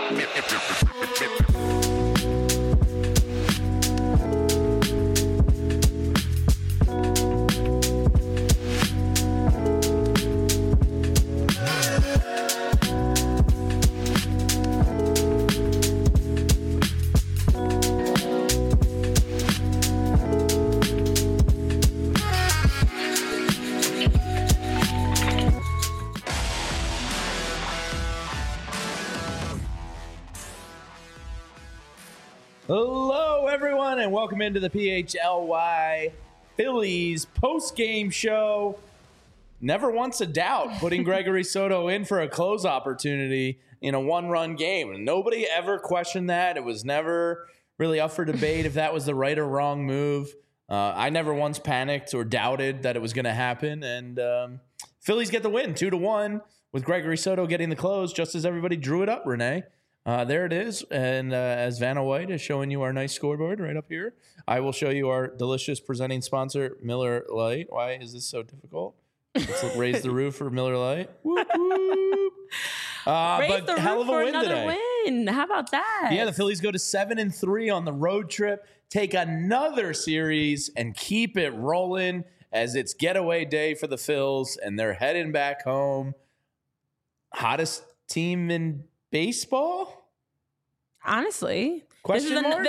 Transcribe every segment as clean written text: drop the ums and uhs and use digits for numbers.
Hello, everyone, and welcome into the PHLY Phillies post-game show. Never once a doubt putting Gregory Soto in for a close opportunity in a one-run game. Nobody ever questioned that. It was never really up for debate if that was the right or wrong move. I never once panicked or doubted that it was going to happen. And Phillies get the win, 2-1, with Gregory Soto getting the close, just as everybody drew it up, Renee. There it is. And as Vanna White is showing you our nice scoreboard right up here, I will show you our delicious presenting sponsor, Miller Lite. Why is this so difficult? Let's raise the roof for Miller Lite. Whoop, whoop. But the hell roof of a for win another today. win. How about that? Yeah, the Phillies go to 7-3 on the road trip, take another series, and keep it rolling as it's getaway day for the Phils, and they're heading back home. Hottest team in baseball? Honestly. Question mark?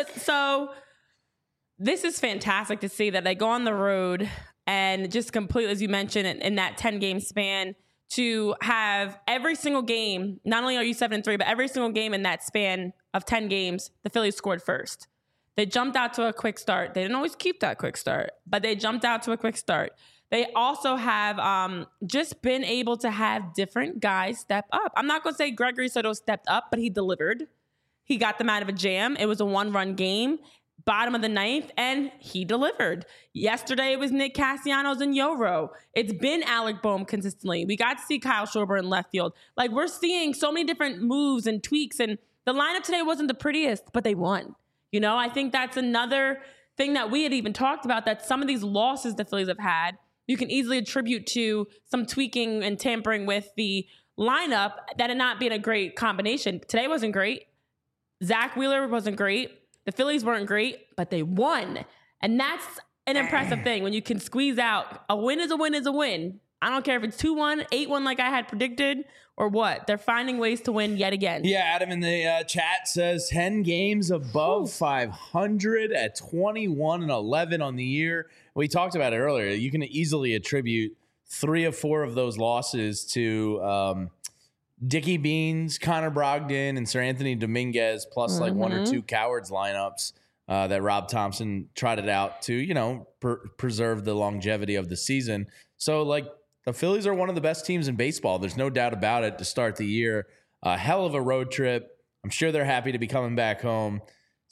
This is fantastic to see that they go on the road and just completely, as you mentioned, in that 10-game span, to have every single game, not only are you 7-3, but every single game in that span of 10 games, the Phillies scored first. They jumped out to a quick start. They didn't always keep that quick start, but they jumped out to a quick start. They also have just been able to have different guys step up. I'm not going to say Gregory Soto stepped up, but he delivered. He got them out of a jam. It was a one-run game, bottom of the ninth, and he delivered. Yesterday, it was Nick Castellanos and Yoro. It's been Alec Boehm consistently. We got to see Kyle Schwarber in left field. Like, we're seeing so many different moves and tweaks, and the lineup today wasn't the prettiest, but they won. You know, I think that's another thing that we had even talked about, that some of these losses the Phillies have had, you can easily attribute to some tweaking and tampering with the lineup that had not been a great combination. Today wasn't great. Zach Wheeler wasn't great. The Phillies weren't great, but they won. And that's an impressive thing. When you can squeeze out, a win is a win is a win. I don't care if it's 2-1, 8-1 like I had predicted, or what. They're finding ways to win yet again. Yeah, Adam in the chat says 10 games above 500 at 21-11 on the year. We talked about it earlier. You can easily attribute 3 or 4 of those losses to Dickie Beans, Connor Brogdon, and Sir Anthony Dominguez, plus like 1 or 2 cowards lineups that Rob Thompson trotted out to, you know, preserve the longevity of the season. So, like, the Phillies are one of the best teams in baseball. There's no doubt about it to start the year. A hell of a road trip. I'm sure they're happy to be coming back home.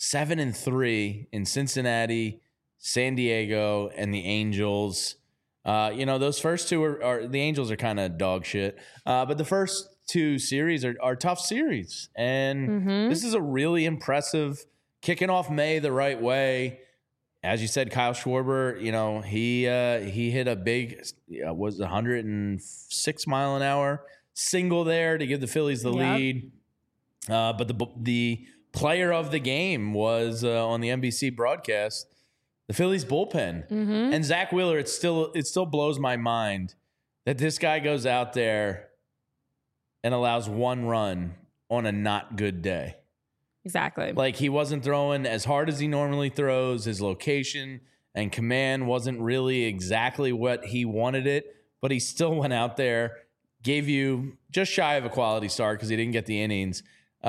7-3 in Cincinnati, San Diego, and the Angels. You know, those first two are the Angels are kind of dog shit. But the first 2 series are tough series. And this is a really impressive kicking off May the right way. As you said, Kyle Schwarber, you know, he hit a big, was 106 mile an hour single there to give the Phillies the lead. But the player of the game was on the NBC broadcast, the Phillies bullpen. And Zach Wheeler, it still blows my mind that this guy goes out there and allows 1 run on a not good day. Exactly. Like, he wasn't throwing as hard as he normally throws. His location and command wasn't really exactly what he wanted it, but he still went out there, gave you just shy of a quality start because he didn't get the innings,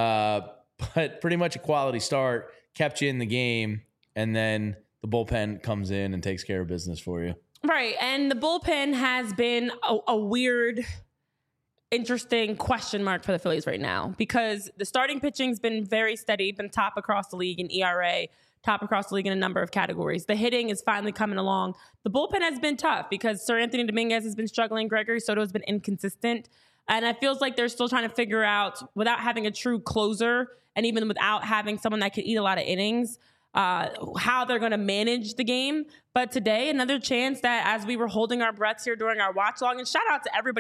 but pretty much a quality start, kept you in the game, and then the bullpen comes in and takes care of business for you. Right, and the bullpen has been a weird, interesting question mark for the Phillies right now, because the starting pitching's been very steady, been top across the league in ERA, top across the league in a number of categories. The hitting is finally coming along. The bullpen has been tough because Sir Anthony Dominguez has been struggling. Gregory Soto has been inconsistent. And it feels like they're still trying to figure out, without having a true closer and even without having someone that can eat a lot of innings, how they're going to manage the game. But today, another chance that, as we were holding our breaths here during our watch long, and shout out to everybody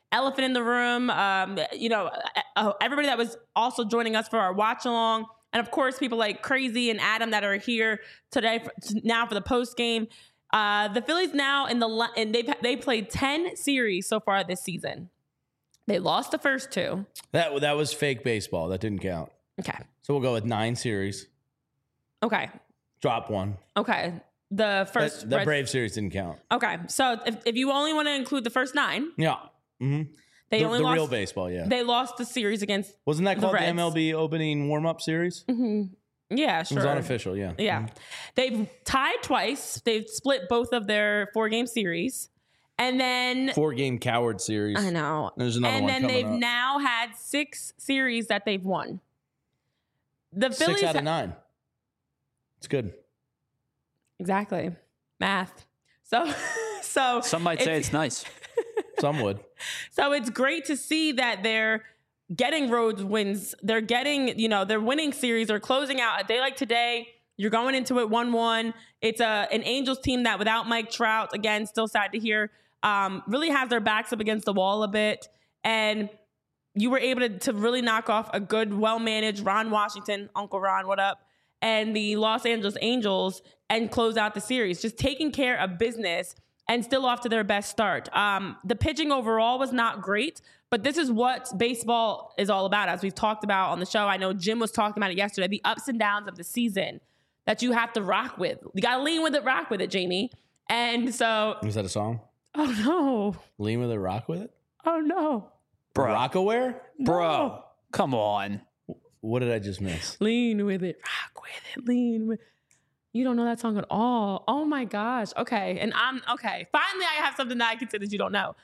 elephant in the room. Everybody that was also joining us for our watch along. And of course, people like Crazy and Adam that are here today now for the post game. The Phillies now they played 10 series so far this season. They lost the first 2. That was fake baseball. That didn't count. Okay. So we'll go with 9 series. Okay. Drop 1. Okay. The first the Brave series didn't count. Okay. So if you only want to include the first 9. Yeah. Mm-hmm. They only lost real baseball, yeah. They lost the series against Wasn't that called the Reds. MLB opening warm-up series? Mm-hmm. Yeah, sure. It was unofficial, yeah. Yeah. Mm-hmm. They've tied twice. They've split both of their 4-game series. And then 4-game coward series. I know. There's another one And then they've coming up. now had 6 series that they've won. The Phillies 6 out of 9. It's good. Exactly. Math. So Some might say it's nice. Some would. So it's great to see that they're getting road wins. They're getting, they're winning series. They're closing out a day like today. You're going into it 1-1. It's an Angels team that without Mike Trout, again, still sad to hear, really has their backs up against the wall a bit. And you were able to really knock off a good, well-managed Ron Washington, Uncle Ron, what up, and the Los Angeles Angels and close out the series. Just taking care of business and still off to their best start. The pitching overall was not great, but this is what baseball is all about, as we've talked about on the show. I know Jim was talking about it yesterday, the ups and downs of the season that you have to rock with. You got to lean with it, rock with it, Jamie. And so... Was that a song? Oh, no. Lean with it, rock with it? Oh, no. Bro. Rockaware? Bro, come on. What did I just miss? Lean with it, rock with it, lean with it. You don't know that song at all. Oh my gosh. Okay. And okay. Finally, I have something that I can say that you don't know.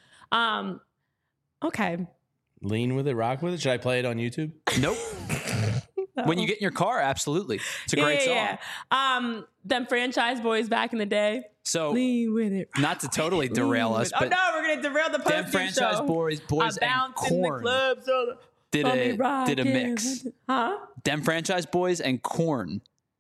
Okay. Lean with it, rock with it? Should I play it on YouTube? Nope. No. When you get in your car, absolutely. It's a great song. Yeah. Them Franchise Boys back in the day. So, lean with it. not to totally derail us, Oh but no, we're gonna derail the them post Franchise show. Boys I and bounce in the Korn club, so did a mix. Huh? Them Franchise Boys and Korn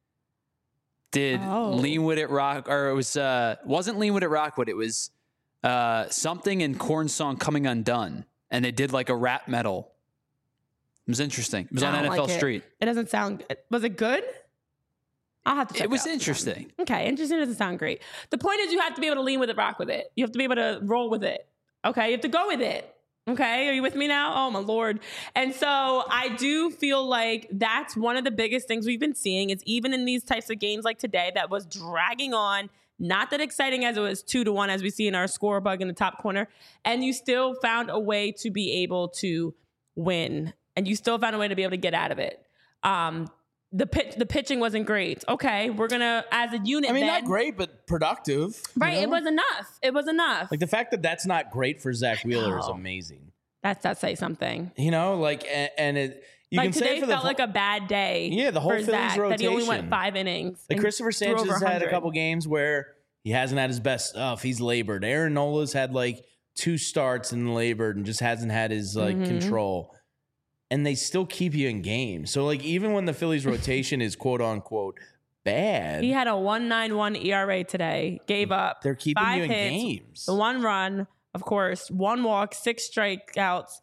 did Lean With It Rock, or it was wasn't Lean With It Rock, but it was something in Korn's song Coming Undone, and they did like a rap metal. It was interesting. It was on NFL Street. It doesn't sound. Was it good? I'll have to check It was out interesting. Okay, interesting doesn't sound great. The point is you have to be able to lean with it, rock with it. You have to be able to roll with it. Okay, you have to go with it. Okay, are you with me now? Oh my Lord. And so I do feel like that's one of the biggest things we've been seeing is even in these types of games like today that was dragging on, not that exciting as it was 2-1 as we see in our score bug in the top corner, and you still found a way to be able to win, and you still found a way to be able to get out of it. The pitching wasn't great. Okay, we're gonna as a unit. I mean, then, not great, but productive. right? It was enough. It was enough. Like the fact that that's not great for Zach Wheeler is amazing. That say something. You know, like and it. You like can today say for felt like a bad day. Yeah, the whole for Phillies Zach, rotation. that he only went 5 innings. Like Christopher Sanchez over has had a 100. couple games where he hasn't had his best stuff. He's labored. Aaron Nola's had like 2 starts and labored and just hasn't had his like control. And they still keep you in games. So like even when the Phillies rotation is quote unquote bad, He had a 1.91 ERA today. Gave up. they're keeping 5 you in hits, games. The 1 run, of course, 1 walk, 6 strikeouts.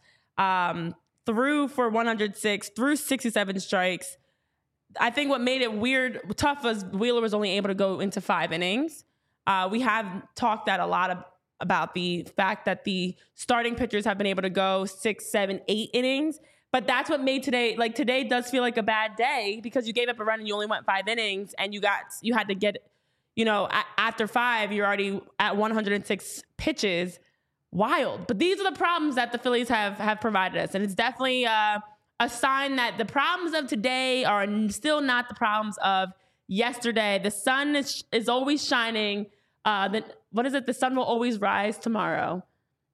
Threw for 106, threw 67 strikes. I think what made it tough was Wheeler was only able to go into 5 innings. We have talked that a lot about the fact that the starting pitchers have been able to go 6, 7, 8 innings. But that's what made today, like today does feel like a bad day because you gave up a run and you only went 5 innings and you had to get, after 5, you're already at 106 pitches. Wild. But these are the problems that the Phillies have provided us. And it's definitely a sign that the problems of today are still not the problems of yesterday. The sun is always shining. What is it? The sun will always rise tomorrow.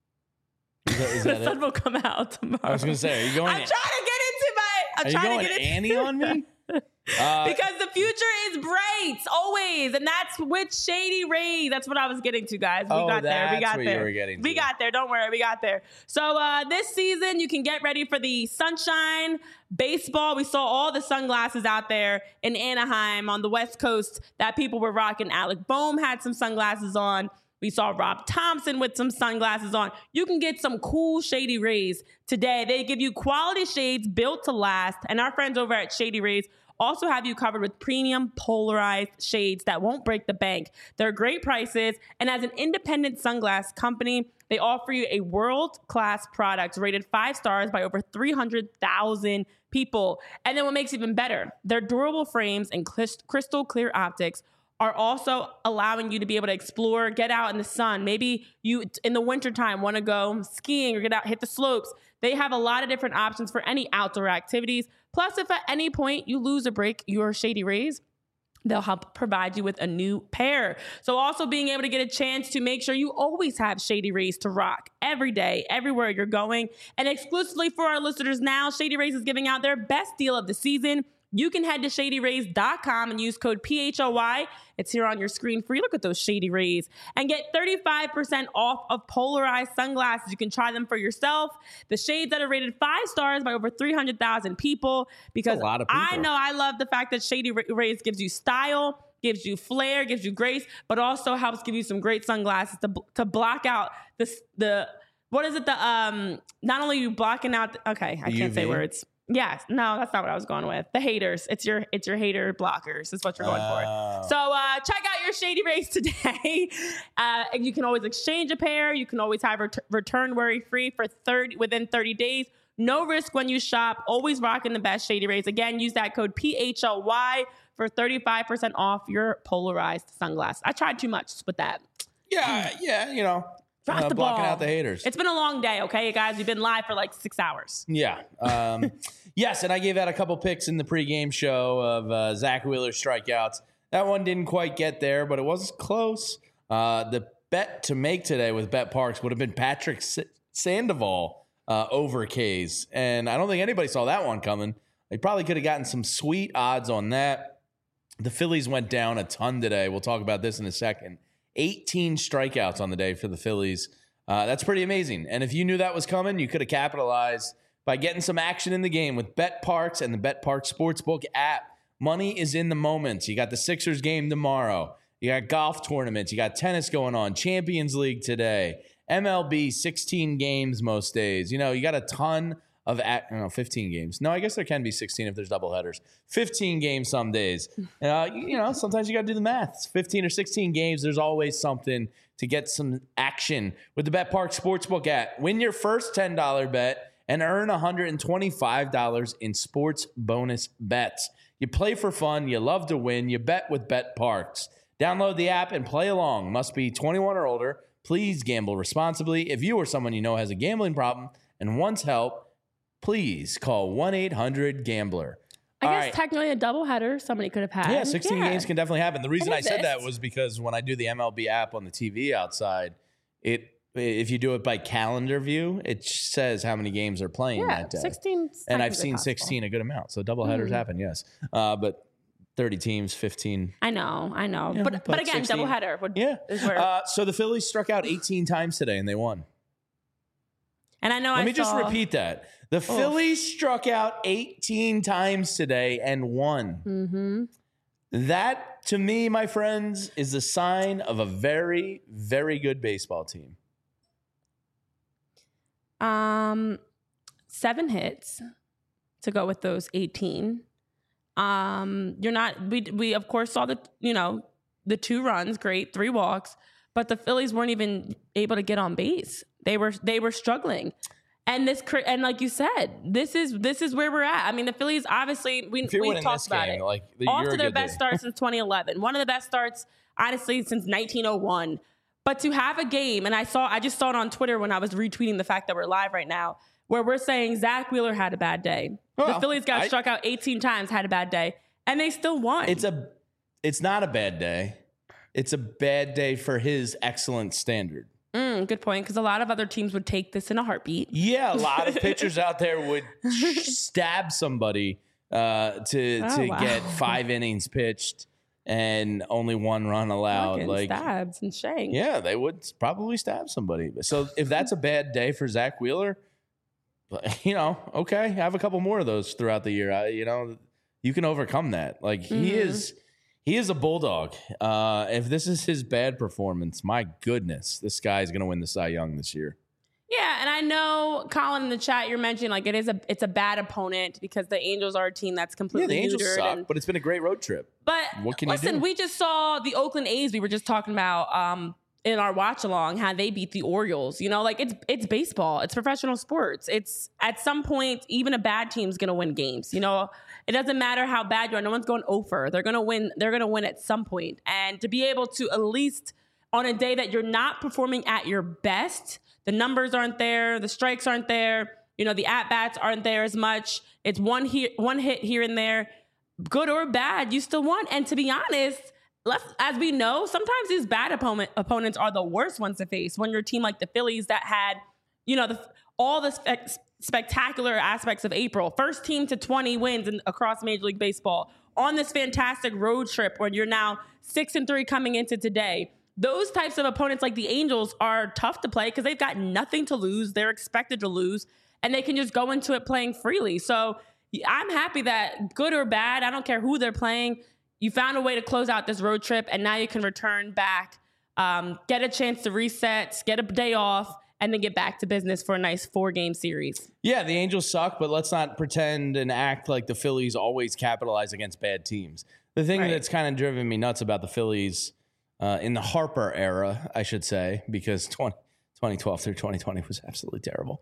Is that The sun will come out tomorrow. I was going to say, are you going? I'm trying to get into my. Are you going Annie on me? Because the future is bright always, and that's with Shady Ray. That's what I was getting to, guys. We got there. We that's got what there. you were getting We to. got there. Don't worry, we got there. So this season, you can get ready for the sunshine baseball. We saw all the sunglasses out there in Anaheim on the West Coast that people were rocking. Alec Boehm had some sunglasses on. We saw Rob Thompson with some sunglasses on. You can get some cool Shady Rays today. They give you quality shades built to last. And our friends over at Shady Rays also have you covered with premium polarized shades that won't break the bank. They're great prices. And as an independent sunglass company, they offer you a world-class product rated 5 stars by over 300,000 people. And then what makes it even better, their durable frames and crystal clear optics are also allowing you to be able to explore, get out in the sun. Maybe you, in the wintertime, want to go skiing or get out, hit the slopes. They have a lot of different options for any outdoor activities. Plus, if at any point you lose or break your Shady Rays, they'll help provide you with a new pair. So also being able to get a chance to make sure you always have Shady Rays to rock every day, everywhere you're going. And exclusively for our listeners now, Shady Rays is giving out their best deal of the season. You can head to ShadyRays.com and use code PHOY. It's here on your screen for you. Look at those Shady Rays. And get 35% off of polarized sunglasses. You can try them for yourself. The shades that are rated 5 stars by over 300,000 people. Because a lot of people. I know I love the fact that Shady Rays gives you style, gives you flair, gives you grace, but also helps give you some great sunglasses to block out the what is it? Not only you blocking out, okay, I can't say words. Yes. No, that's not what I was going with. The haters. It's your hater blockers is what you're going for. So check out your Shady Rays today. You can always exchange a pair. You can always have return worry-free for within 30 days. No risk when you shop. Always rocking the best Shady Rays. Again, use that code PHLY for 35% off your polarized sunglasses. I tried too much with that. Yeah, you know. Drop the blocking ball. out the haters. It's been a long day, okay, guys? We've been live for like 6 hours. Yeah. Yes, and I gave out a couple picks in the pregame show of Zach Wheeler's strikeouts. That one didn't quite get there, but it was close. The bet to make today with Bet Parks would have been Patrick Sandoval over K's, and I don't think anybody saw that one coming. They probably could have gotten some sweet odds on that. The Phillies went down a ton today. We'll talk about this in a second. 18 strikeouts on the day for the Phillies. That's pretty amazing. And if you knew that was coming, you could have capitalized by getting some action in the game with Bet Parks and the Bet Parks Sportsbook app. Money is in the moments. You got the Sixers game tomorrow. You got golf tournaments. You got tennis going on. Champions League today. MLB, 16 games most days. You know, you got a ton of 15 games. No, I guess there can be 16 if there's doubleheaders. 15 games some days. You know, sometimes you got to do the math. It's 15 or 16 games. There's always something to get some action with the Bet Park Sportsbook app. Win your first $10 bet and earn $125 in sports bonus bets. You play for fun. You love to win. You bet with Bet Parks. Download the app and play along. Must be 21 or older. Please gamble responsibly. If you or someone you know has a gambling problem and wants help, please call 1-800-GAMBLER. I guess technically a doubleheader somebody could have had. Yeah, 16 games can definitely happen. The reason I said that was because when I do the MLB app on the TV outside, if you do it by calendar view, it says how many games are playing that day. 16. And I've seen 16 a good amount. So doubleheaders happen, yes. But 30 teams, 15. I know. Yeah, but again, 16. Doubleheader would is where. So the Phillies struck out 18 times today and they won. And I know Let me just repeat that. The Phillies struck out 18 times today and won. Mm-hmm. That, to me, my friends, is a sign of a very, very good baseball team. 7 hits to go with those 18. We of course saw the 2 runs, great, 3 walks, but the Phillies weren't even able to get on base. They were struggling. And like you said, this is where we're at. I mean, the Phillies obviously we've talked about it. Off to their best start since 2011. One of the best starts, honestly, since 1901. But to have a game, and I just saw it on Twitter when I was retweeting the fact that we're live right now, where we're saying Zach Wheeler had a bad day. Well, the Phillies got struck out 18 times, had a bad day, and they still won. It's not a bad day. It's a bad day for his excellent standard. Good point, because a lot of other teams would take this in a heartbeat. Yeah, a lot of pitchers out there would stab somebody get 5 innings pitched and only 1 run allowed. Like stabs and shanks. Yeah, they would probably stab somebody. So if that's a bad day for Zach Wheeler, okay, have a couple more of those throughout the year. You can overcome that. Like he He is a bulldog. If this is his bad performance, my goodness, this guy is going to win the Cy Young this year. Yeah, and I know, Colin, in the chat, you're mentioning like it's a bad opponent because the Angels are a team that's completely the Angels neutered. suck, but it's been a great road trip. But what can you do? we just saw the Oakland A's. We were just talking about in our watch along how they beat the Orioles. You know, like it's baseball. It's professional sports. It's at some point even a bad team's going to win games. You know, it doesn't matter how bad you are. No one's going over. They're going to win. They're going to win at some point. And to be able to at least on a day that you're not performing at your best, the numbers aren't there, the strikes aren't there, you know, the at-bats aren't there as much. It's one hit here and there. Good or bad, you still won. And to be honest, as we know, sometimes these bad opponents are the worst ones to face. When you're a team like the Phillies that had, you know, all the spectacular aspects of April, first team to 20 wins across Major League Baseball, on this fantastic road trip where you're now 6-3 coming into today. Those types of opponents like the Angels are tough to play because they've got nothing to lose. They're expected to lose, and they can just go into it playing freely. So I'm happy that good or bad, I don't care who they're playing, you found a way to close out this road trip, and now you can return back, get a chance to reset, get a day off, and then get back to business for a nice 4-game series. Yeah, the Angels suck, but let's not pretend and act like the Phillies always capitalize against bad teams. The thing that's kind of driven me nuts about the Phillies in the Harper era, I should say, because 2012 through 2020 was absolutely terrible.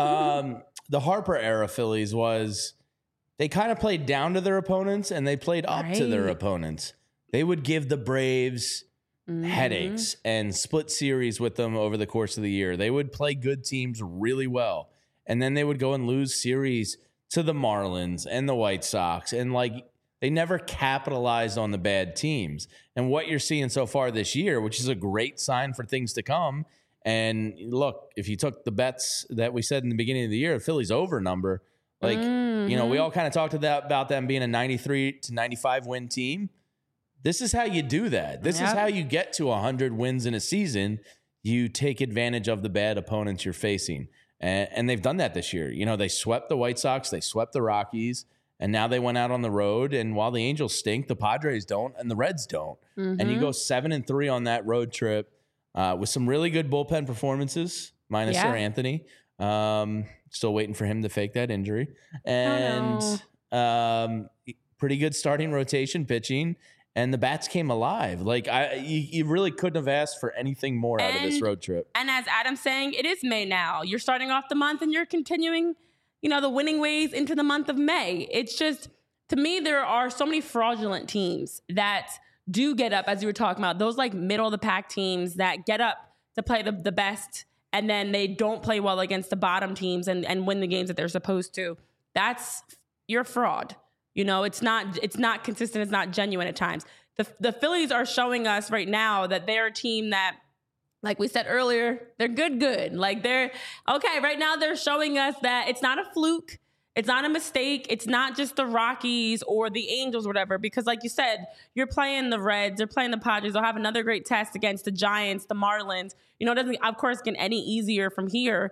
The Harper era Phillies was, they kind of played down to their opponents and they played up to their opponents. They would give the Braves headaches and split series with them over the course of the year. They would play good teams really well. And then they would go and lose series to the Marlins and the White Sox. And like, they never capitalized on the bad teams. And what you're seeing so far this year, which is a great sign for things to come. And look, if you took the bets that we said in the beginning of the year, the Phillies over number, like, you know, we all kind of talked about them being a 93 to 95 win team. This is how you do that. This is how you get to 100 wins in a season. You take advantage of the bad opponents you're facing. And they've done that this year. You know, they swept the White Sox, they swept the Rockies, and now they went out on the road. And while the Angels stink, the Padres don't, and the Reds don't. And you go 7-3 on that road trip with some really good bullpen performances, minus Sir Anthony. Still waiting for him to fake that injury. And pretty good starting rotation pitching. And the bats came alive. Like, you really couldn't have asked for anything more out of this road trip. And as Adam's saying, it is May now. You're starting off the month and you're continuing, you know, the winning ways into the month of May. It's just, to me, there are so many fraudulent teams that do get up, as you were talking about, those like middle of the pack teams that get up to play the best, and then they don't play well against the bottom teams and win the games that they're supposed to. You're a fraud. You know, it's not consistent. It's not genuine at times. The Phillies are showing us right now that they're a team that, like we said earlier, they're good. Like right now they're showing us that it's not a fluke. It's not a mistake. It's not just the Rockies or the Angels or whatever, because like you said, you're playing the Reds, they're playing the Padres. They'll have another great test against the Giants, the Marlins. You know, it doesn't, of course, get any easier from here.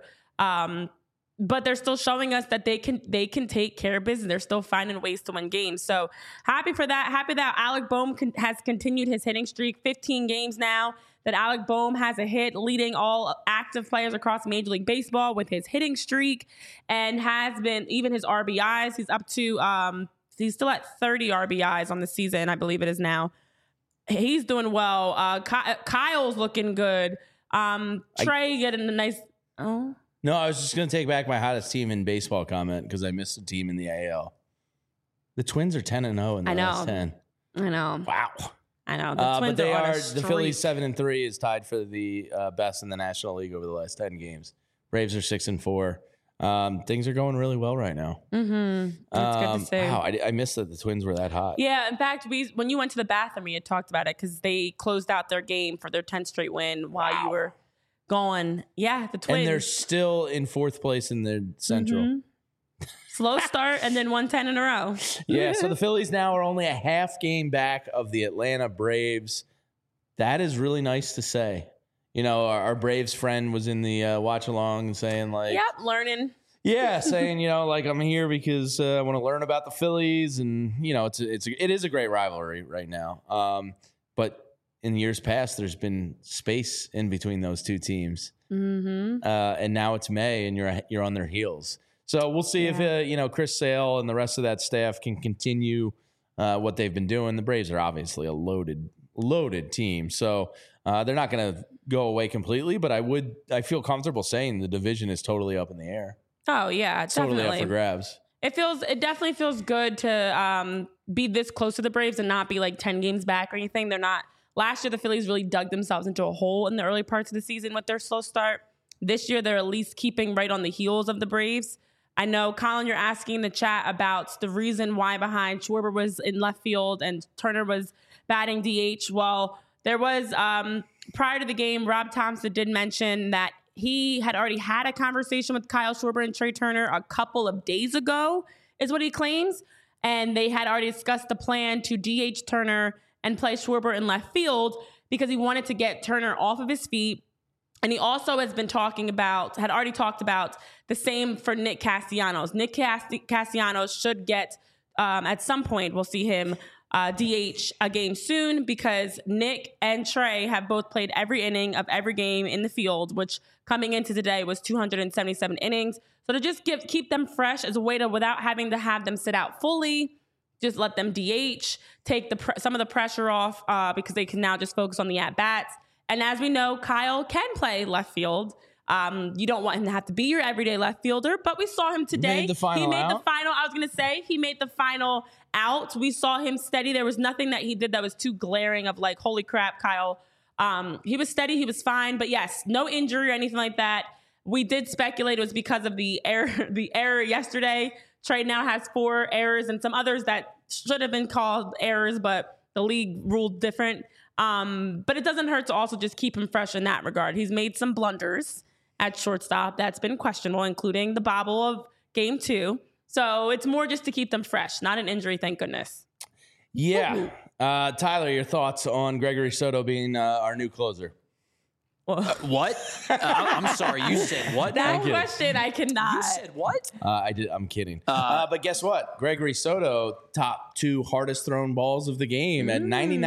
But they're still showing us that they can take care of business. They're still finding ways to win games. So happy for that. Happy that Alec Bohm has continued his hitting streak. 15 games now that Alec Bohm has a hit, leading all active players across Major League Baseball with his hitting streak, and has been even his RBIs. He's up to he's still at 30 RBIs on the season, I believe it is now. He's doing well. Kyle's looking good. Trey getting a nice. Oh. No, I was just going to take back my hottest team in baseball comment because I missed a team in the AL. The Twins are 10-0 in the last 10. I know. Wow. I know. The Twins but the Phillies 7-3 is tied for the best in the National League over the last 10 games. Braves are 6-4. Things are going really well right now. That's good to see. Wow, I missed that the Twins were that hot. Yeah, in fact, when you went to the bathroom, we had talked about it because they closed out their game for their 10th straight win while you were going. Yeah, the Twins. And they're still in 4th place in the Central. Slow start and then won 10 in a row. Yeah, so the Phillies now are only a half game back of the Atlanta Braves. That is really nice to say. You know, our Braves friend was in the watch along and saying like, "Yep, learning." Yeah, saying, like I'm here because I want to learn about the Phillies, and it is a great rivalry right now. But in years past, there's been space in between those two teams, and now it's May, and you're on their heels. So we'll see if Chris Sale and the rest of that staff can continue what they've been doing. The Braves are obviously a loaded team, so they're not going to go away completely. But I feel comfortable saying the division is totally up in the air. Oh yeah, definitely. Totally up for grabs. It definitely feels good to be this close to the Braves and not be like 10 games back or anything. They're not. Last year, the Phillies really dug themselves into a hole in the early parts of the season with their slow start. This year, they're at least keeping right on the heels of the Braves. I know, Colin, you're asking in the chat about the reason why behind Schwarber was in left field and Turner was batting DH. Well, there was, prior to the game, Rob Thompson did mention that he had already had a conversation with Kyle Schwarber and Trey Turner a couple of days ago, is what he claims. And they had already discussed the plan to DH Turner and play Schwarber in left field because he wanted to get Turner off of his feet. And he also had already talked about the same for Nick Castellanos. Nick Castellanos should get, at some point, we'll see him DH a game soon because Nick and Trey have both played every inning of every game in the field, which coming into today was 277 innings. So to just keep them fresh as a way to, without having to have them sit out fully, just let them DH, take some of the pressure off because they can now just focus on the at-bats. And as we know, Kyle can play left field. You don't want him to have to be your everyday left fielder, but we saw him today. He made the final out. We saw him steady. There was nothing that he did that was too glaring of like, holy crap, Kyle. He was steady. He was fine. But yes, no injury or anything like that. We did speculate it was because of the error yesterday. Trey now has 4 errors and some others that should have been called errors, but the league ruled different. But it doesn't hurt to also just keep him fresh in that regard. He's made some blunders at shortstop that's been questionable, including the bobble of game 2. So it's more just to keep them fresh, not an injury, thank goodness. Yeah. Tyler, your thoughts on Gregory Soto being our new closer? What? I'm sorry. You said what? That question I cannot. You said what? I did. I'm kidding. But guess what? Gregory Soto, top 2 hardest thrown balls of the game at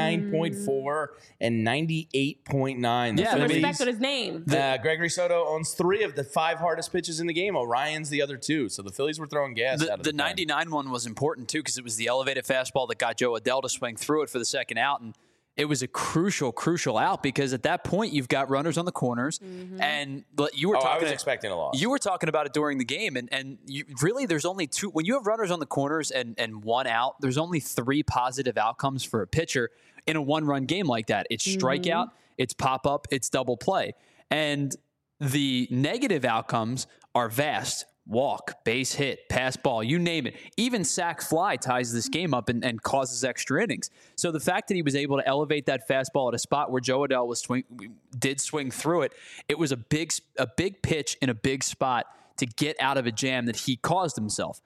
99.4 and 98.9. Yeah, respect on his name. Gregory Soto owns 3 of the 5 hardest pitches in the game. Orion's the other 2. So the Phillies were throwing gas out of the 99 one was important too because it was the elevated fastball that got Joe Adell to swing through it for the second out, and it was a crucial out because at that point you've got runners on the corners, and you were talking. I was expecting a loss. You were talking about it during the game, and really there's only 2 when you have runners on the corners and 1 out. There's only 3 positive outcomes for a pitcher in a 1-run game like that. It's strikeout, it's pop up, it's double play, and the negative outcomes are vast. Walk, base hit, pass ball, you name it. Even sac fly ties this game up and causes extra innings. So the fact that he was able to elevate that fastball at a spot where Joe Adell did swing through it, it was a big pitch in a big spot to get out of a jam that he caused himself.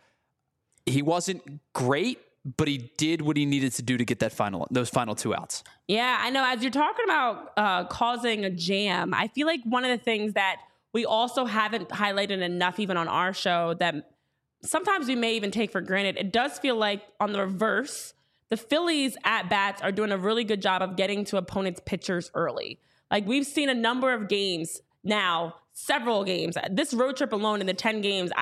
He wasn't great, but he did what he needed to do to get those final 2 outs. Yeah, I know. As you're talking about causing a jam, I feel like one of the things that we also haven't highlighted enough, even on our show, that sometimes we may even take for granted. It does feel like on the reverse, the Phillies at bats are doing a really good job of getting to opponents' pitchers early. Like we've seen a number of games now, several games. This road trip alone in the 10 games,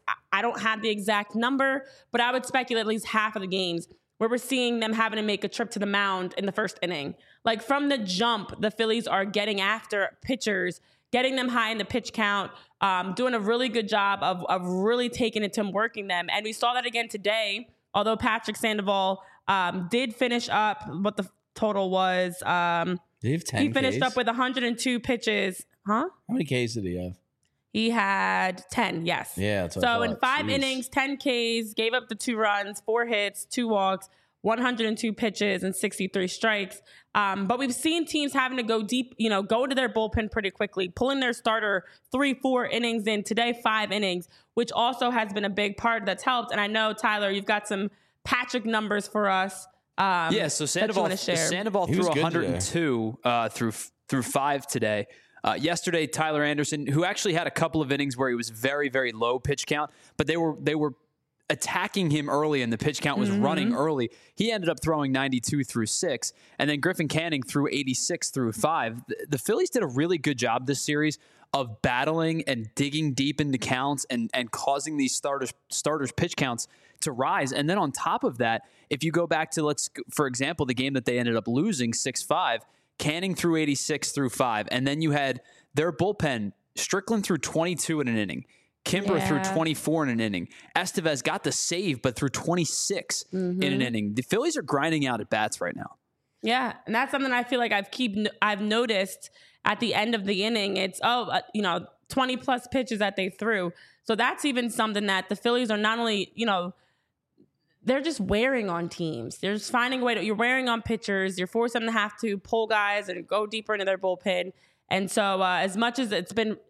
I don't have the exact number, but I would speculate at least half of the games where we're seeing them having to make a trip to the mound in the first inning. Like from the jump, the Phillies are getting after pitchers, getting them high in the pitch count, doing a really good job of really taking it to them, working them. And we saw that again today, although Patrick Sandoval did finish up what the total was. Did he have 10 He finished Ks? Up with 102 pitches. Huh? How many Ks did he have? He had 10, yes. Yeah, that's what I So thought. in 5 innings, 10 Ks, gave up the 2 runs, 4 hits, 2 walks, 102 pitches, and 63 strikes. But we've seen teams having to go deep, go to their bullpen pretty quickly, pulling their starter 3-4 innings in. Today, 5 innings, which also has been a big part that's helped. And I know, Tyler, you've got some Patrick numbers for us. So Sandoval threw 102 through 5 today. Yesterday, Tyler Anderson, who actually had a couple of innings where he was very, very low pitch count, but they were attacking him early and the pitch count was running early. He ended up throwing 92 through 6, and then Griffin Canning threw 86 through 5. The Phillies did a really good job this series of battling and digging deep into counts and causing these starters pitch counts to rise. And then on top of that, if you go back to, for example, the game that they ended up losing 6-5, Canning threw 86 through 5, and then you had their bullpen, Strickland threw 22 in an inning. Kimber threw 24 in an inning. Estevez got the save, but threw 26 in an inning. The Phillies are grinding out at bats right now. Yeah, and that's something I feel like I've noticed at the end of the inning. It's 20 plus pitches that they threw. So that's even something that the Phillies are not only, they're just wearing on teams. They're just finding a way you're wearing on pitchers. You're forcing them to have to pull guys and go deeper into their bullpen. And so as much as it's been,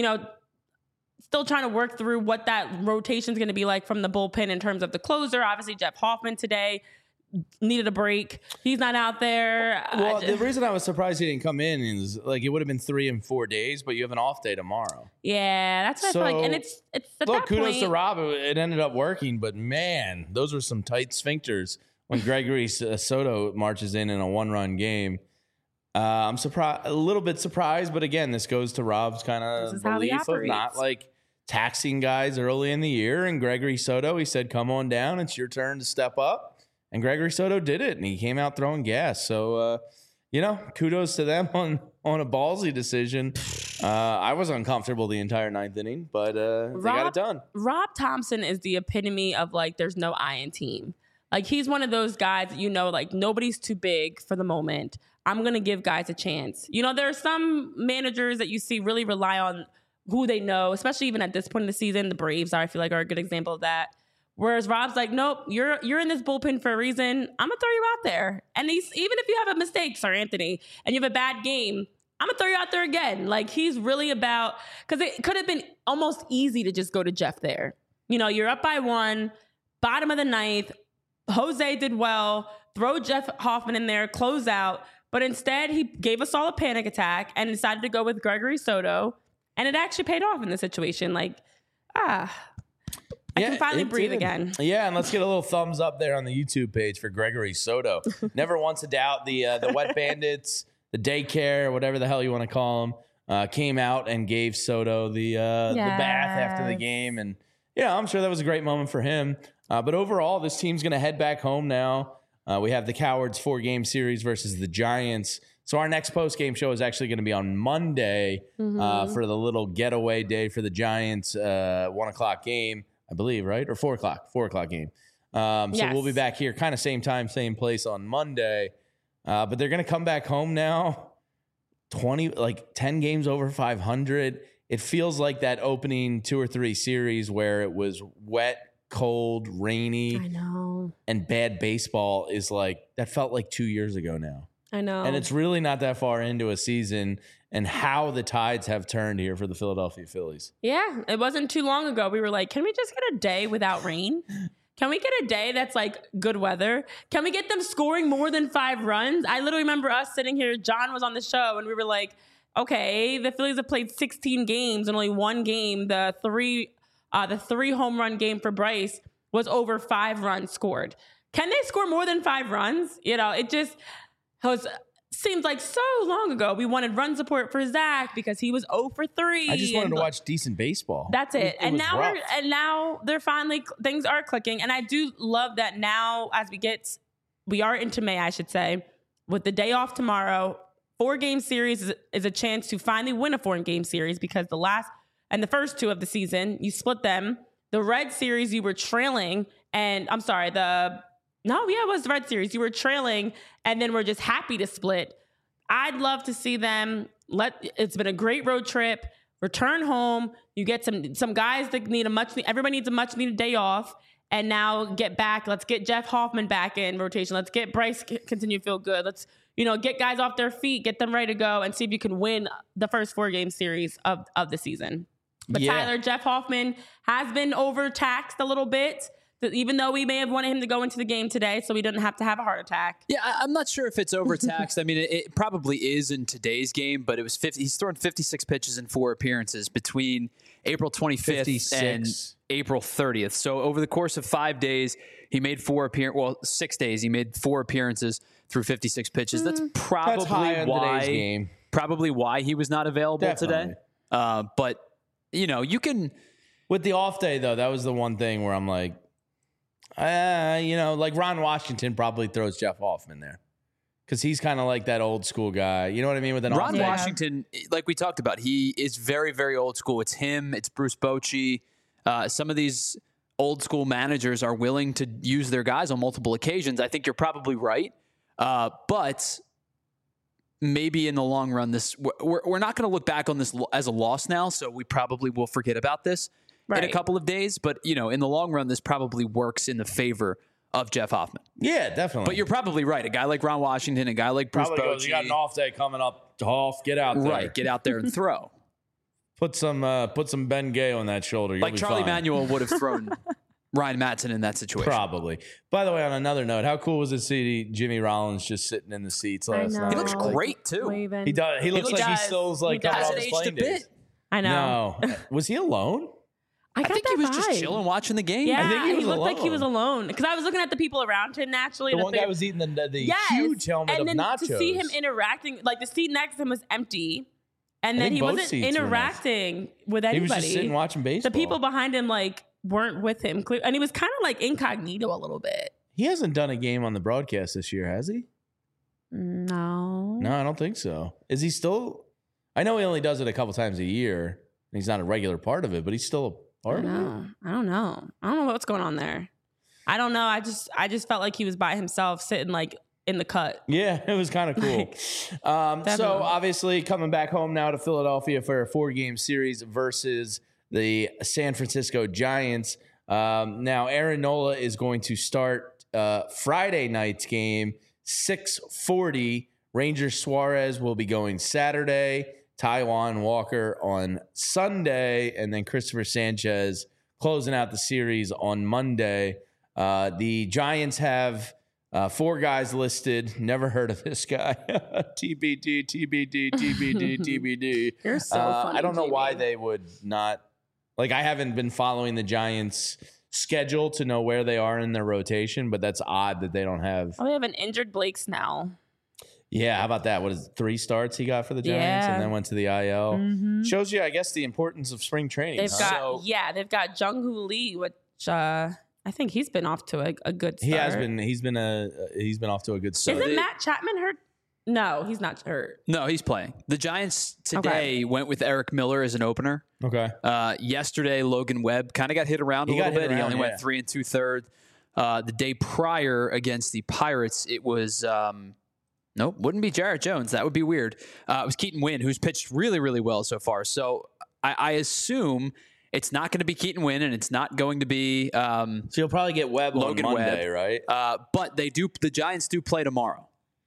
still trying to work through what that rotation is going to be like from the bullpen in terms of the closer. Obviously, Jeff Hoffman today needed a break. He's not out there. Well, the reason I was surprised he didn't come in is it would have been 3 and 4 days, but you have an off day tomorrow. Yeah, that's what I feel like. And it's at that kudos point, to Rob. It ended up working, but man, those were some tight sphincters when Gregory Soto marches in a 1-run game. I'm surprised, a little bit surprised, but again, this goes to Rob's kind of belief of not taxing guys early in the year. And Gregory Soto, he said, come on down. It's your turn to step up. And Gregory Soto did it, and he came out throwing gas. So, kudos to them on a ballsy decision. I was uncomfortable the entire 9th inning, but they got it done. Rob Thompson is the epitome of there's no I in team. He's one of those guys that nobody's too big for the moment. I'm going to give guys a chance. There are some managers that you see really rely on who they know, especially even at this point in the season. The Braves are a good example of that. Whereas Rob's like, nope, you're in this bullpen for a reason. I'm going to throw you out there. And even if you have a mistake, Sir Anthony, and you have a bad game, I'm going to throw you out there again. He's really about, because it could have been almost easy to just go to Jeff there. You're up by 1, bottom of the 9th. Jose did well. Throw Jeff Hoffman in there, close out. But instead, he gave us all a panic attack and decided to go with Gregory Soto. And it actually paid off in this situation. I can finally breathe again. Yeah, and let's get a little thumbs up there on the YouTube page for Gregory Soto. Never once a doubt the Wet Bandits, the daycare, whatever the hell you want to call them, came out and gave Soto the bath after the game. And, I'm sure that was a great moment for him. But overall, this team's going to head back home now. We have the Cowards 4-game series versus the Giants. So our next post-game show is actually going to be on Monday for the little getaway day for the Giants 1 o'clock game, I believe, right? Or 4 o'clock game. So we'll be back here kind of same time, same place on Monday. But they're going to come back home now, 10 games over 500. It feels like that opening 2 or 3 series where it was wet, cold, rainy, I know, and bad baseball is that felt like 2 years ago now. I know. And it's really not that far into a season and how the tides have turned here for the Philadelphia Phillies. Yeah, it wasn't too long ago. We were like, can we just get a day without rain? Can we get a day that's good weather? Can we get them scoring more than 5 runs? I literally remember us sitting here. John was on the show and we were like, okay, the Phillies have played 16 games and only 1 game, the 3 home run game for Bryce was over 5 runs scored. Can they score more than 5 runs? It just seems like so long ago. We wanted run support for Zach because he was 0 for 3. I just wanted to watch decent baseball. That's it. And now they're finally, things are clicking. And I do love that now as we are into May, I should say, with the day off tomorrow, 4-game series is a chance to finally win a 4-game series because the first 2 of the season, you split them. The Red Series, you were trailing, and I'm sorry, it was the Red Series. You were trailing, and then we're just happy to split. I'd love to see them. It's been a great road trip. Return home. You get some guys that everybody needs a much needed day off, and now get back. Let's get Jeff Hoffman back in rotation. Let's get Bryce continue to feel good. Let's get guys off their feet, get them ready to go, and see if you can win the first 4-game series of the season. But Tyler, Jeff Hoffman has been overtaxed a little bit. Even though we may have wanted him to go into the game today so he didn't have to have a heart attack. Yeah, I'm not sure if it's overtaxed. I mean, it probably is in today's game, but it was 50. He's thrown 56 pitches in 4 appearances between April 25th 56. and April 30th. So over the course of 5 days, he made 4 appearances. Well, 6 days, he made 4 appearances through 56 pitches. That's probably high on today's game. Probably why he was not available Definitely. today. But you can. With the off day, though, that was the one thing where I'm like, like Ron Washington probably throws Jeff Hoffman there because he's kind of like that old school guy. You know what I mean? With an Ron off day. Washington, like we talked about, he is very, very old school. It's him. It's Bruce Bochy. Some of these old school managers are willing to use their guys on multiple occasions. I think you're probably right. But maybe in the long run, we're not going to look back on this as a loss now, so we probably will forget about this in a couple of days. But, in the long run, this probably works in the favor of Jeff Hoffman. Yeah, definitely. But you're probably right. A guy like Ron Washington, a guy like Bruce probably Bochy. goes, you got an off day coming up, Hoff, get out there. Right, get out there and throw. Put some Ben Gay on that shoulder. You'll Like be Charlie fine. Manuel would have thrown Ryan Matson in that situation. Probably. By the way, on another note, how cool was it to see Jimmy Rollins just sitting in the seats last night? He looks great, too. Waving. He does. He looks like he does. still's like He coming does. off Hasn't his aged a playing bit. days. I know. No. Was he alone? I think he was just chilling, watching the game. Yeah, I think he was looked like he alone. was alone because I was looking at the people around him naturally. The and I one guy figured- was eating the Yes. huge helmet and of then nachos. to see him interacting, like the seat next to him was empty, and then think he both wasn't seats were interacting with He anybody. was just sitting watching baseball. The people behind him weren't with him, and he was kind of like incognito a little bit. He hasn't done a game on the broadcast this year, has he? No, No, I don't think so. Is he still? I know he only does it a couple times a year. And he's not a regular part of it, but he's still a part of it. I don't know what's going on there. I don't know. I just felt like he was by himself, sitting in the cut. Yeah, it was kind of cool. So obviously coming back home now to Philadelphia for a 4-game series versus the San Francisco Giants. Now Aaron Nola is going to start Friday night's game, 6:40. Ranger Suarez will be going Saturday. Taijuan Walker on Sunday, and then Christopher Sanchez closing out the series on Monday. The Giants have 4 guys listed. Never heard of this guy. TBD, TBD, TBD, TBD. You're so funny. I don't know Jamie. why they would not. I haven't been following the Giants' schedule to know where they are in their rotation, but that's odd that they don't have. Oh, they have an injured Blake Snell. Yeah, how about that? What is it, 3 starts he got for the Giants Yeah. and then went to the IL? Mm-hmm. Shows you, I guess, the importance of spring training. They've huh? got they've got Jung-Hoo Lee, which I think he's been off to a good start. He has been. He's been off to a good start. Isn't Matt Chapman hurt? No, he's not hurt. No, he's playing. The Giants today went with Eric Miller as an opener. Okay. Yesterday, Logan Webb kind of got hit around a He got little hit bit. He around, only yeah. went 3 2/3. The day prior against the Pirates, it was nope, wouldn't be Jarrett Jones. That would be weird. It was Keaton Winn, who's pitched really, really well so far. So I assume it's not going to be Keaton Winn, and it's not going to be So you'll probably get Webb Logan on Monday, Webb. right? But the Giants do play tomorrow.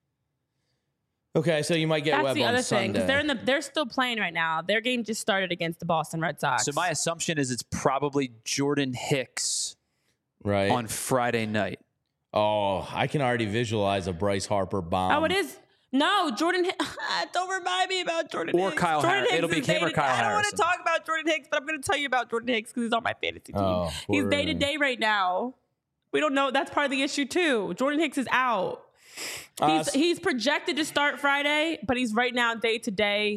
Okay, so you might get That's Webb the on other thing Sunday. because they're still playing right now. Their game just started against the Boston Red Sox. So my assumption is it's probably Jordan Hicks right on Friday night. Oh, I can already visualize a Bryce Harper bomb. Oh, it is. No, Jordan. Don't remind me about Jordan Or Hicks. Kyle Jordan Harris. Hicks It'll be is him or day-to-day. Kyle I don't want Harrison. to talk about Jordan Hicks, but I'm going to tell you about Jordan Hicks because he's on my fantasy team. Oh, He's poor- day to day right now. We don't know. That's part of the issue too. Jordan Hicks is out. He's projected to start Friday, but he's right now day to day.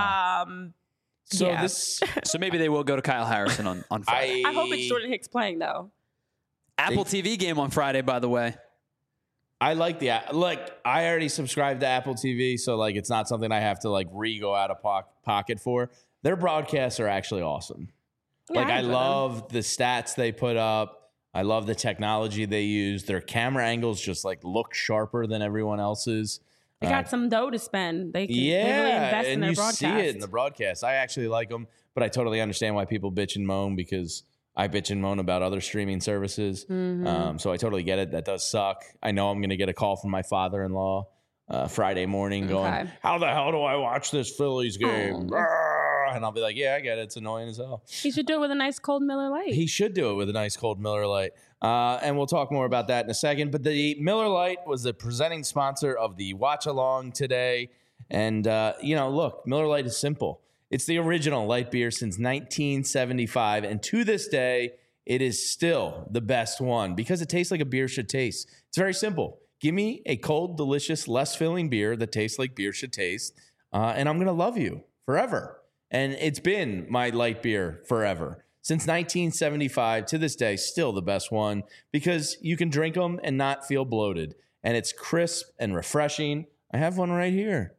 So yeah. this, So maybe they will go to Kyle Harrison on Friday. I hope it's Jordan Hicks playing though. Apple TV game on Friday, by the way. I like the I already subscribed to Apple TV, so it's not something I have to go out of pocket for. Their broadcasts are actually awesome. Yeah, I enjoy them. love the stats they put up. I love the technology they use. Their camera angles just look sharper than everyone else's. They got some dough to spend. They can really Yeah, invest in and their you broadcast. see it in the broadcast. I actually like them, but I totally understand why people bitch and moan because I bitch and moan about other streaming services. Mm-hmm. So I totally get it. That does suck. I know I'm going to get a call from my father-in-law Friday morning going, Okay. how the hell do I watch this Phillies game? Oh. and I'll be like, yeah, I get it. It's annoying as hell. He should do it with a nice cold Miller Lite. He should do it with a nice cold Miller Lite. And we'll talk more about that in a second. But the Miller Lite was the presenting sponsor of the watch along today. And, look, Miller Lite is simple. It's the original light beer since 1975. And to this day, it is still the best one because it tastes like a beer should taste. It's very simple. Give me a cold, delicious, less filling beer that tastes like beer should taste. And I'm going to love you forever. And it's been my light beer forever. Since 1975 to this day, still the best one because you can drink them and not feel bloated. And it's crisp and refreshing. I have one right here.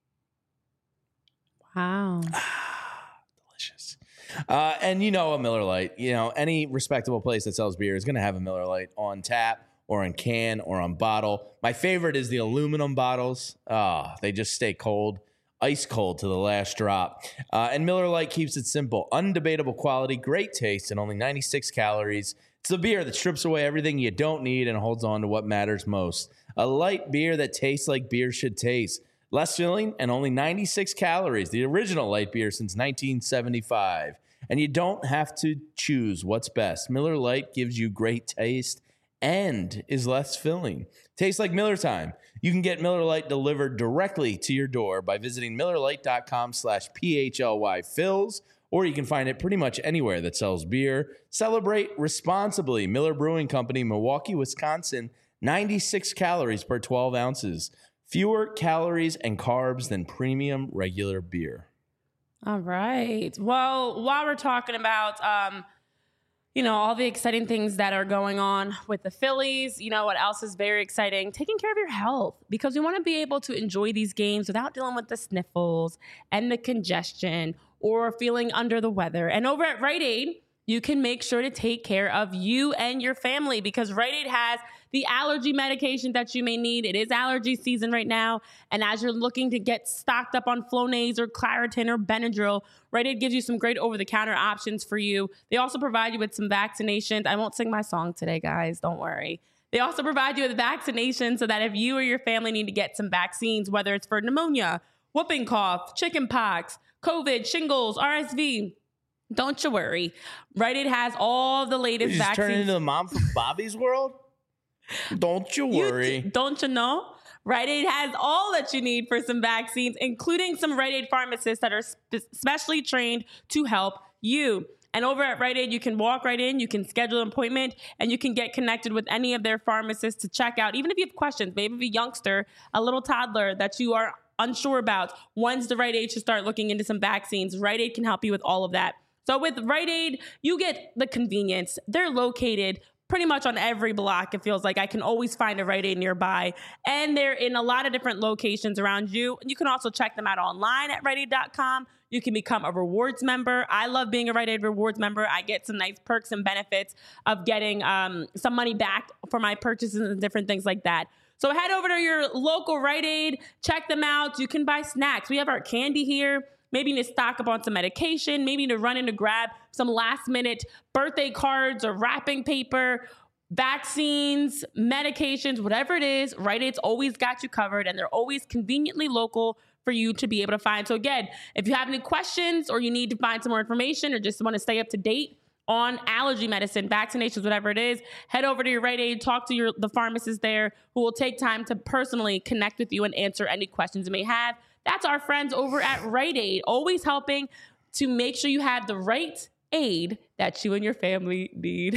Wow. Delicious. And a Miller Lite, any respectable place that sells beer is going to have a Miller Lite on tap or in can or on bottle. My favorite is the aluminum bottles. They just stay cold, ice cold to the last drop. And Miller Lite keeps it simple. Undebatable quality, great taste, and only 96 calories. It's a beer that strips away everything you don't need and holds on to what matters most. A light beer that tastes like beer should taste. Less filling and only 96 calories. The original light beer since 1975. And you don't have to choose what's best. Miller Lite gives you great taste and is less filling. Tastes like Miller time. You can get Miller Lite delivered directly to your door by visiting MillerLite.com/PHLYFills, or you can find it pretty much anywhere that sells beer. Celebrate responsibly. Miller Brewing Company, Milwaukee, Wisconsin. 96 calories per 12 ounces. Fewer calories and carbs than premium regular beer. All right. Well, while we're talking about, all the exciting things that are going on with the Phillies, what else is very exciting? Taking care of your health, because we want to be able to enjoy these games without dealing with the sniffles and the congestion or feeling under the weather. And over at Rite Aid, you can make sure to take care of you and your family because Rite Aid has the allergy medication that you may need. It is allergy season right now. And as you're looking to get stocked up on Flonase or Claritin or Benadryl, Rite Aid gives you some great over-the-counter options for you. They also provide you with some vaccinations. I won't sing my song today, guys. Don't worry. They also provide you with vaccinations so that if you or your family need to get some vaccines, whether it's for pneumonia, whooping cough, chicken pox, COVID, shingles, RSV, don't you worry. Rite Aid has all the latest vaccines. Turn into the mom from Bobby's World? Don't you worry. Don't you know? Rite Aid has all that you need for some vaccines, including some Rite Aid pharmacists that are specially trained to help you. And over at Rite Aid, you can walk right in, you can schedule an appointment, and you can get connected with any of their pharmacists to check out. Even if you have questions, maybe a youngster, a little toddler that you are unsure about, when's the right age to start looking into some vaccines, Rite Aid can help you with all of that. So with Rite Aid, you get the convenience. They're located pretty much on every block. It feels like I can always find a Rite Aid nearby. And they're in a lot of different locations around you. You can also check them out online at RiteAid.com. You can become a rewards member. I love being a Rite Aid rewards member. I get some nice perks and benefits of getting some money back for my purchases and different things like that. So head over to your local Rite Aid. Check them out. You can buy snacks. We have our candy here. Maybe you need to stock up on some medication. Maybe you need to run in to grab some last minute birthday cards or wrapping paper, vaccines, medications, whatever it is. Rite Aid's always got you covered, and they're always conveniently local for you to be able to find. So again, if you have any questions or you need to find some more information or just want to stay up to date on allergy medicine, vaccinations, whatever it is, head over to your Rite Aid, talk to the pharmacist there who will take time to personally connect with you and answer any questions you may have. That's our friends over at Rite Aid, always helping to make sure you have the right aid that you and your family need.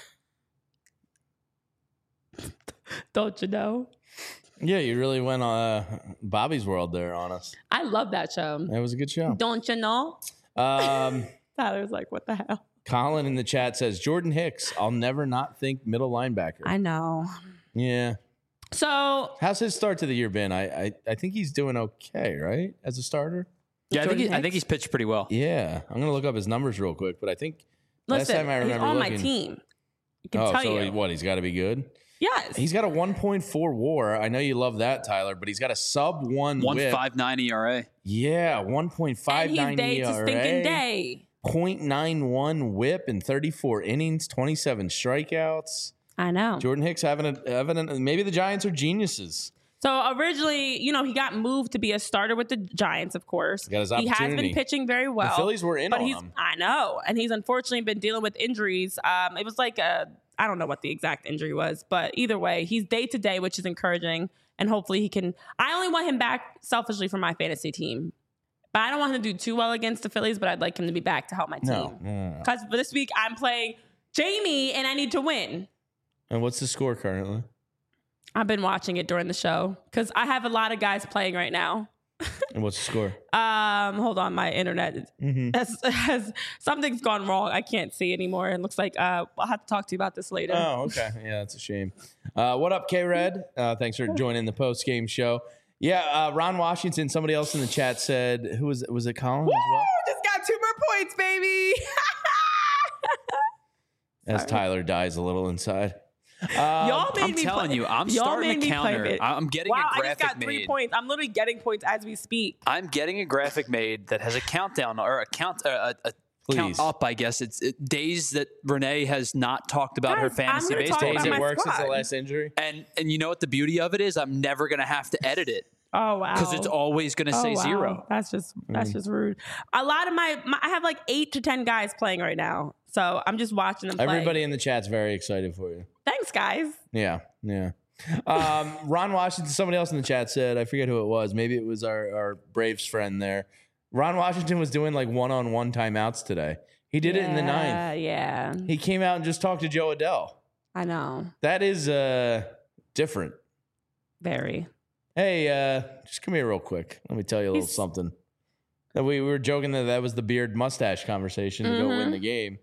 Don't you know? Yeah, you really went on Bobby's World there on us. I love that show. That was a good show. Don't you know? Tyler's like, what the hell? Colin in the chat says, Jordan Hicks, I'll never not think middle linebacker. I know. Yeah. So how's his start to the year been? I think he's doing okay, right? As a starter? Yeah, I think he's pitched pretty well. Yeah. I'm going to look up his numbers real quick, but I think last time I remember he's on my team. I can tell you. What, he's got to be good? Yes. He's got a 1.4 WAR. I know you love that, Tyler, but he's got a sub 1 1.59 ERA. Yeah, 1.59 and he's ERA. stinking day. 0.91 whip in 34 innings, 27 strikeouts. I know. Jordan Hicks having maybe the Giants are geniuses. So originally, he got moved to be a starter with the Giants, of course. Got his He has opportunity. been pitching very well. The Phillies were in but on him. I know. And he's unfortunately been dealing with injuries. It was like I don't know what the exact injury was, but either way, he's day to day, which is encouraging. And hopefully he can. I only want him back selfishly for my fantasy team. But I don't want him to do too well against the Phillies, but I'd like him to be back to help my team. No. Because for this week, I'm playing Jamie, and I need to win. And what's the score currently? I've been watching it during the show because I have a lot of guys playing right now. And what's the score? Hold on, my internet has something's gone wrong. I can't see anymore. It looks like I'll have to talk to you about this later. Oh, okay. Yeah, that's a shame. What up, K-Red? Thanks for joining the post-game show. Yeah, Ron Washington, somebody else in the chat said, was it Colin as well? Just got 2 more points, baby. As Tyler dies a little inside. Y'all made I'm me telling play, you, I'm y'all starting made to me counter. play it. I'm getting a I graphic just got 3 made. points. I'm literally getting points as we speak. I'm getting a graphic made that has a countdown or a count Please. up. I guess it's days that Renee has not talked about her Guys, fantasy I'm gonna talk baseball. about Days my it works since the squad. last injury. And you know what the beauty of it is? I'm never gonna have to edit it Oh wow! because it's always gonna say wow. 0. That's just rude. A lot of my I have like 8 to 10 guys playing right now, so I'm just watching them play. Everybody in the chat's very excited for you. Thanks, guys. Yeah. Ron Washington, somebody else in the chat said, I forget who it was. Maybe it was our Braves friend there. Ron Washington was doing like one-on-one timeouts today. He did it in the 9th. Yeah, He came out and just talked to Joe Adele. I know. That is different. Very. Hey, just come here real quick. Let me tell you a little something. We were joking that was the beard mustache conversation to go win the game.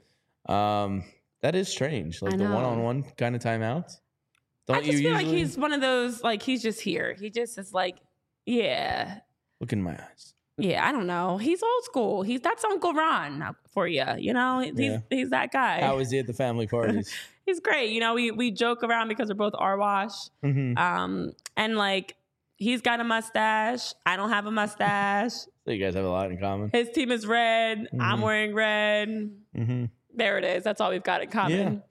That is strange. Like I the know. one-on-one kind of timeouts. Don't I just you feel usually like he's one of those, like, he's just here. He just is like, yeah. look in my eyes? Yeah, I don't know. He's old school. That's Uncle Ron for you. He's that guy. How is he at the family parties? He's great. We joke around because we're both Arwash. Mm-hmm. And like, he's got a mustache. I don't have a mustache. So you guys have a lot in common. His team is red. I'm wearing red. Mm-hmm. There it is. That's all we've got in common.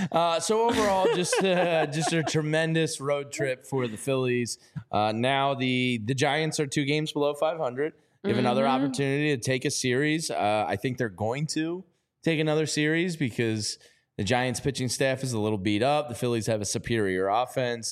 So overall, just a tremendous road trip for the Phillies. Now the Giants are 2 games below 500. They have another opportunity to take a series. I think they're going to take another series because the Giants pitching staff is a little beat up. The Phillies have a superior offense.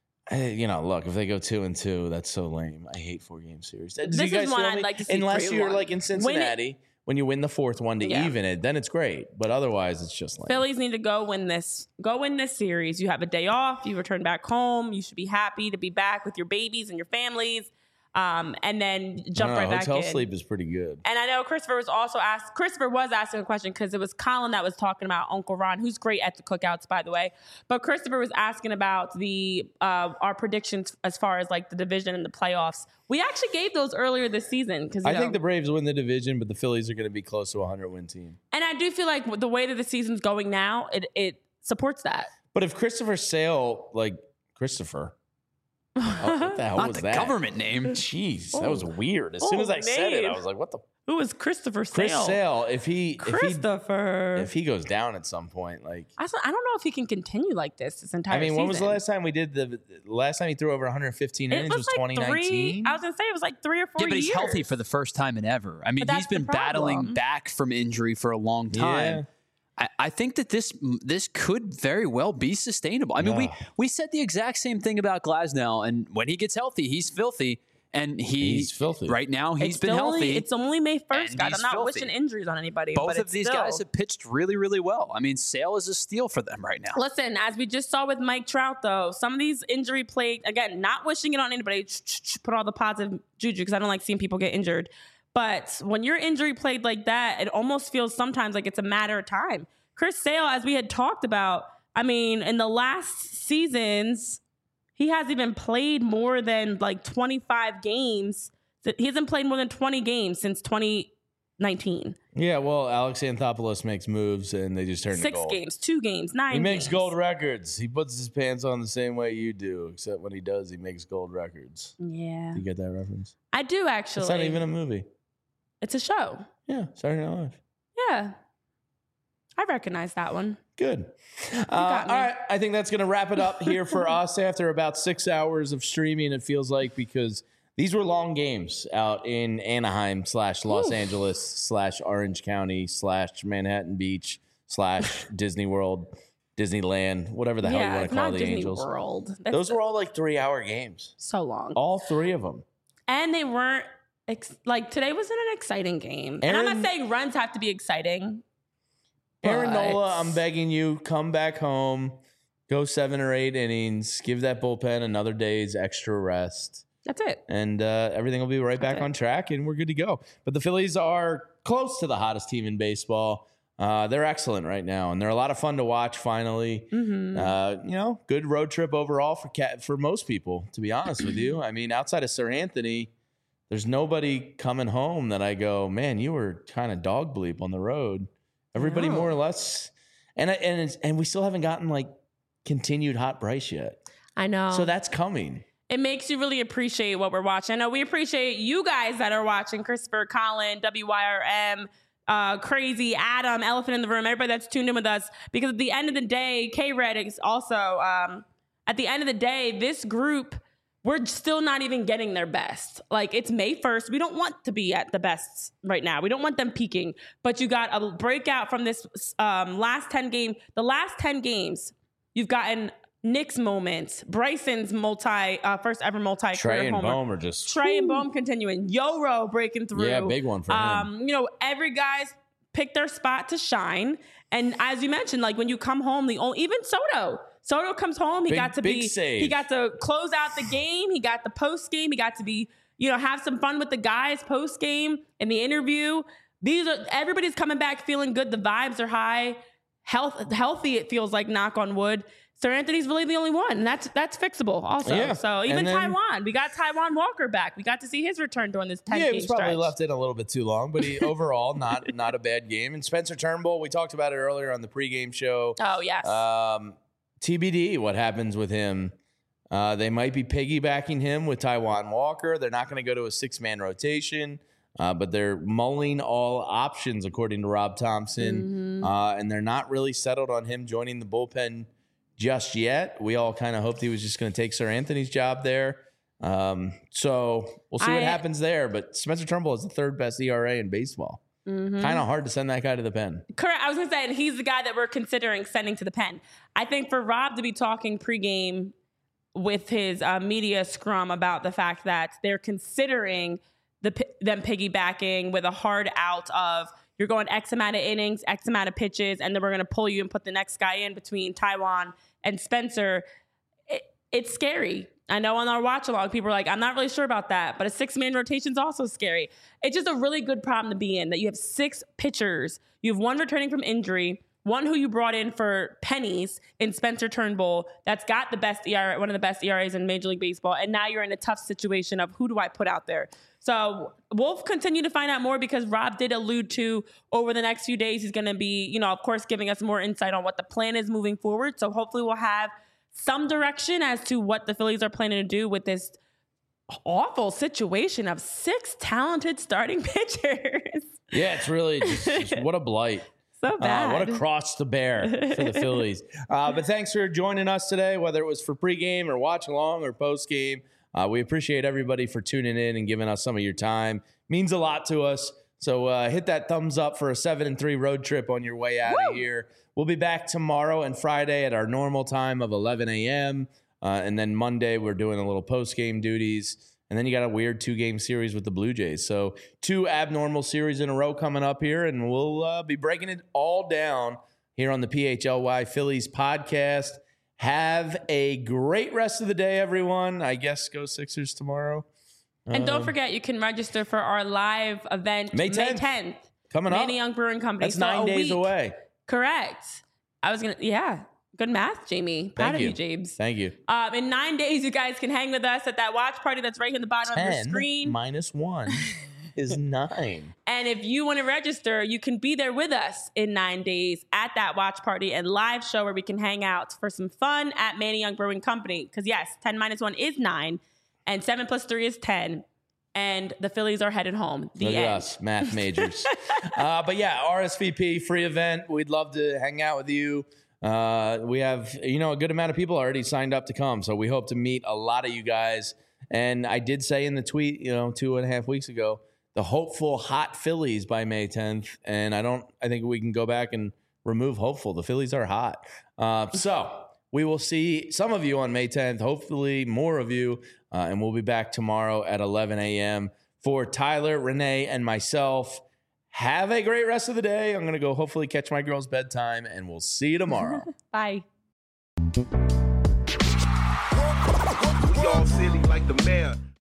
Look, if they go 2-2, that's so lame. I hate 4-game series. This is one I'd like to see. Unless you're 3-1. like in Cincinnati, when you win the 4th one to even it, then it's great. But otherwise, it's just lame. Phillies need to go win this. Go win this series. You have a day off. You return back home. You should be happy to be back with your babies and your families. And then jump right back in. Hotel sleep is pretty good. And I know Christopher was asking a question because it was Colin that was talking about Uncle Ron, who's great at the cookouts, by the way. But Christopher was asking about our predictions as far as like the division and the playoffs. We actually gave those earlier this season because I think the Braves win the division, but the Phillies are going to be close to a 100-win team. And I do feel like the way that the season's going now, it supports that. But if Christopher Sale, Christopher. Oh, what the hell Not was the that? government name. Jeez, that was weird. As soon as I said it, I was like, "What the?" Who is Christopher Sale? Chris Sale. If he goes down at some point, I don't know if he can continue like this entire season. when was the last time we did the last time he threw over 115 innings? Was 2019. I was gonna say it was like 3 or 4 years. Yeah, but he's healthy for the first time in ever. I mean, But he's that's been the battling problem. back from injury for a long time. Yeah. I think that this could very well be sustainable. I mean, we said the exact same thing about Glasnow, and when he gets healthy, he's filthy. And he's filthy. Right now, he's been healthy. It's only May 1st, and guys. he's I'm not filthy. wishing injuries on anybody. Both but of these guys have pitched really, really well. I mean, Sale is a steal for them right now. Listen, as we just saw with Mike Trout, though, some of these injury plagued, again, not wishing it on anybody, put all the positive juju because I don't like seeing people get injured. But when you're injury plagued like that, it almost feels sometimes like it's a matter of time. Chris Sale, as we had talked about, I mean, in the last seasons, he hasn't even played more than like 25 games. He hasn't played more than 20 games since 2019. Yeah, well, Alex Anthopoulos makes moves, and they just turn to 6 gold. games, 2 games, 9 He makes games. gold records. He puts his pants on the same way you do, except when he does, he makes gold records. Yeah. You get that reference? I do, actually. It's not even a movie. It's a show. Yeah, Saturday Night Live. Yeah. I recognize that one. Good. All right. I think that's going to wrap it up here for us after about 6 hours of streaming, it feels like, because these were long games out in Anaheim / Los Angeles / Orange County / Manhattan Beach / Disney World, Disneyland, whatever the hell you want to call the Disney Angels. World. Those were all like 3-hour games. So long. All 3 of them. And they weren't, like, today wasn't an exciting game. And I'm not saying runs have to be exciting. Aaron Nola, I'm begging you, come back home, go 7 or 8 innings, give that bullpen another day's extra rest. That's it. And everything will be right back on track, and we're good to go. But the Phillies are close to the hottest team in baseball. They're excellent right now, and they're a lot of fun to watch, finally. Good road trip overall for most people, to be honest with you. I mean, outside of Sir Anthony, there's nobody coming home that I go, man, you were kind of dog bleep on the road. Everybody more or less. And we still haven't gotten, like, continued hot Bryce yet. I know. So that's coming. It makes you really appreciate what we're watching. I know we appreciate you guys that are watching, Christopher, Colin, WYRM, Crazy, Adam, Elephant in the Room, everybody that's tuned in with us. Because at the end of the day, K-Red is also, at the end of the day, this group, we're still not even getting their best. Like, it's May 1st. We don't want to be at the best right now. We don't want them peaking. But you got a breakout from this last 10 game. The last 10 games, you've gotten Nick's moments, Bryson's first ever multi-career Trey and homer. Bohm are just... Trey and Bohm continuing. Yoro breaking through. Yeah, big one for him. Every guy's picked their spot to shine. And as you mentioned, like, when you come home, even Soto comes home. He got to close out the game. He got the post game. He got to be, have some fun with the guys post game in the interview. Everybody's coming back feeling good. The vibes are high, healthy. It feels like, knock on wood. Sir Anthony's really the only one, and that's fixable also. Yeah. So even Taiwan, we got Taiwan Walker back. We got to see his return during this 10-game stretch. Yeah, he was probably left in a little bit too long, but he overall not a bad game. And Spencer Turnbull, we talked about it earlier on the pregame show. Oh yes. TBD, what happens with him? They might be piggybacking him with Taiwan Walker. They're not going to go to a 6-man rotation, but they're mulling all options according to Rob Thompson, and they're not really settled on him joining the bullpen just yet. We all kind of hoped he was just going to take Sir Anthony's job there. So we'll see what happens there. But Spencer Turnbull is the 3rd best ERA in baseball. Kind of hard to send that guy to the pen. Correct. I was going to say, and he's the guy that we're considering sending to the pen. I think for Rob to be talking pregame with his media scrum about the fact that they're considering them piggybacking with a hard out of, you're going X amount of innings, X amount of pitches, and then we're going to pull you and put the next guy in between Taiwan and Spencer. It's scary. I know on our watch along, people are like, I'm not really sure about that, but a 6-man rotation is also scary. It's just a really good problem to be in, that you have 6 pitchers. You have 1 returning from injury, 1 who you brought in for pennies in Spencer Turnbull that's got the best ERA, one of the best ERAs in Major League Baseball, and now you're in a tough situation of who do I put out there? So we'll continue to find out more, because Rob did allude to over the next few days, he's going to be, of course, giving us more insight on what the plan is moving forward. So hopefully we'll have some direction as to what the Phillies are planning to do with this awful situation of 6 talented starting pitchers. Yeah, it's really just what a blight. So bad. What a cross to bear for the Phillies. But thanks for joining us today, whether it was for pregame or watch along or postgame. We appreciate everybody for tuning in and giving us some of your time. Means a lot to us. So hit that thumbs up for a 7-3 road trip on your way out of here. We'll be back tomorrow and Friday at our normal time of 11 a.m. And then Monday, we're doing a little post-game duties. And then you got a weird 2-game series with the Blue Jays. So 2 abnormal series in a row coming up here, and we'll be breaking it all down here on the PHLY Phillies podcast. Have a great rest of the day, everyone. I guess go Sixers tomorrow. And don't forget, you can register for our live event May 10th. Coming up. Manny Young Brewing Company. That's 9 days away. Correct. Good math, Jamie. Proud of you, James. Thank you. In 9 days, you guys can hang with us at that watch party that's right here in the bottom of your screen. 10 - 1 is 9. And if you want to register, you can be there with us in 9 days at that watch party and live show where we can hang out for some fun at Manny Young Brewing Company. Because yes, 10 - 1 is 9, and 7 + 3 is 10. And the Phillies are headed home. Look at us, math majors. But yeah, RSVP, free event. We'd love to hang out with you. We have, a good amount of people already signed up to come. So we hope to meet a lot of you guys. And I did say in the tweet, 2.5 weeks ago, the hopeful hot Phillies by May 10th. And I think we can go back and remove hopeful. The Phillies are hot. So we will see some of you on May 10th, hopefully more of you. And we'll be back tomorrow at 11 a.m. For Tyler, Renee, and myself. Have a great rest of the day. I'm going to go hopefully catch my girl's bedtime, and we'll see you tomorrow. Bye. We all silly like the mayor.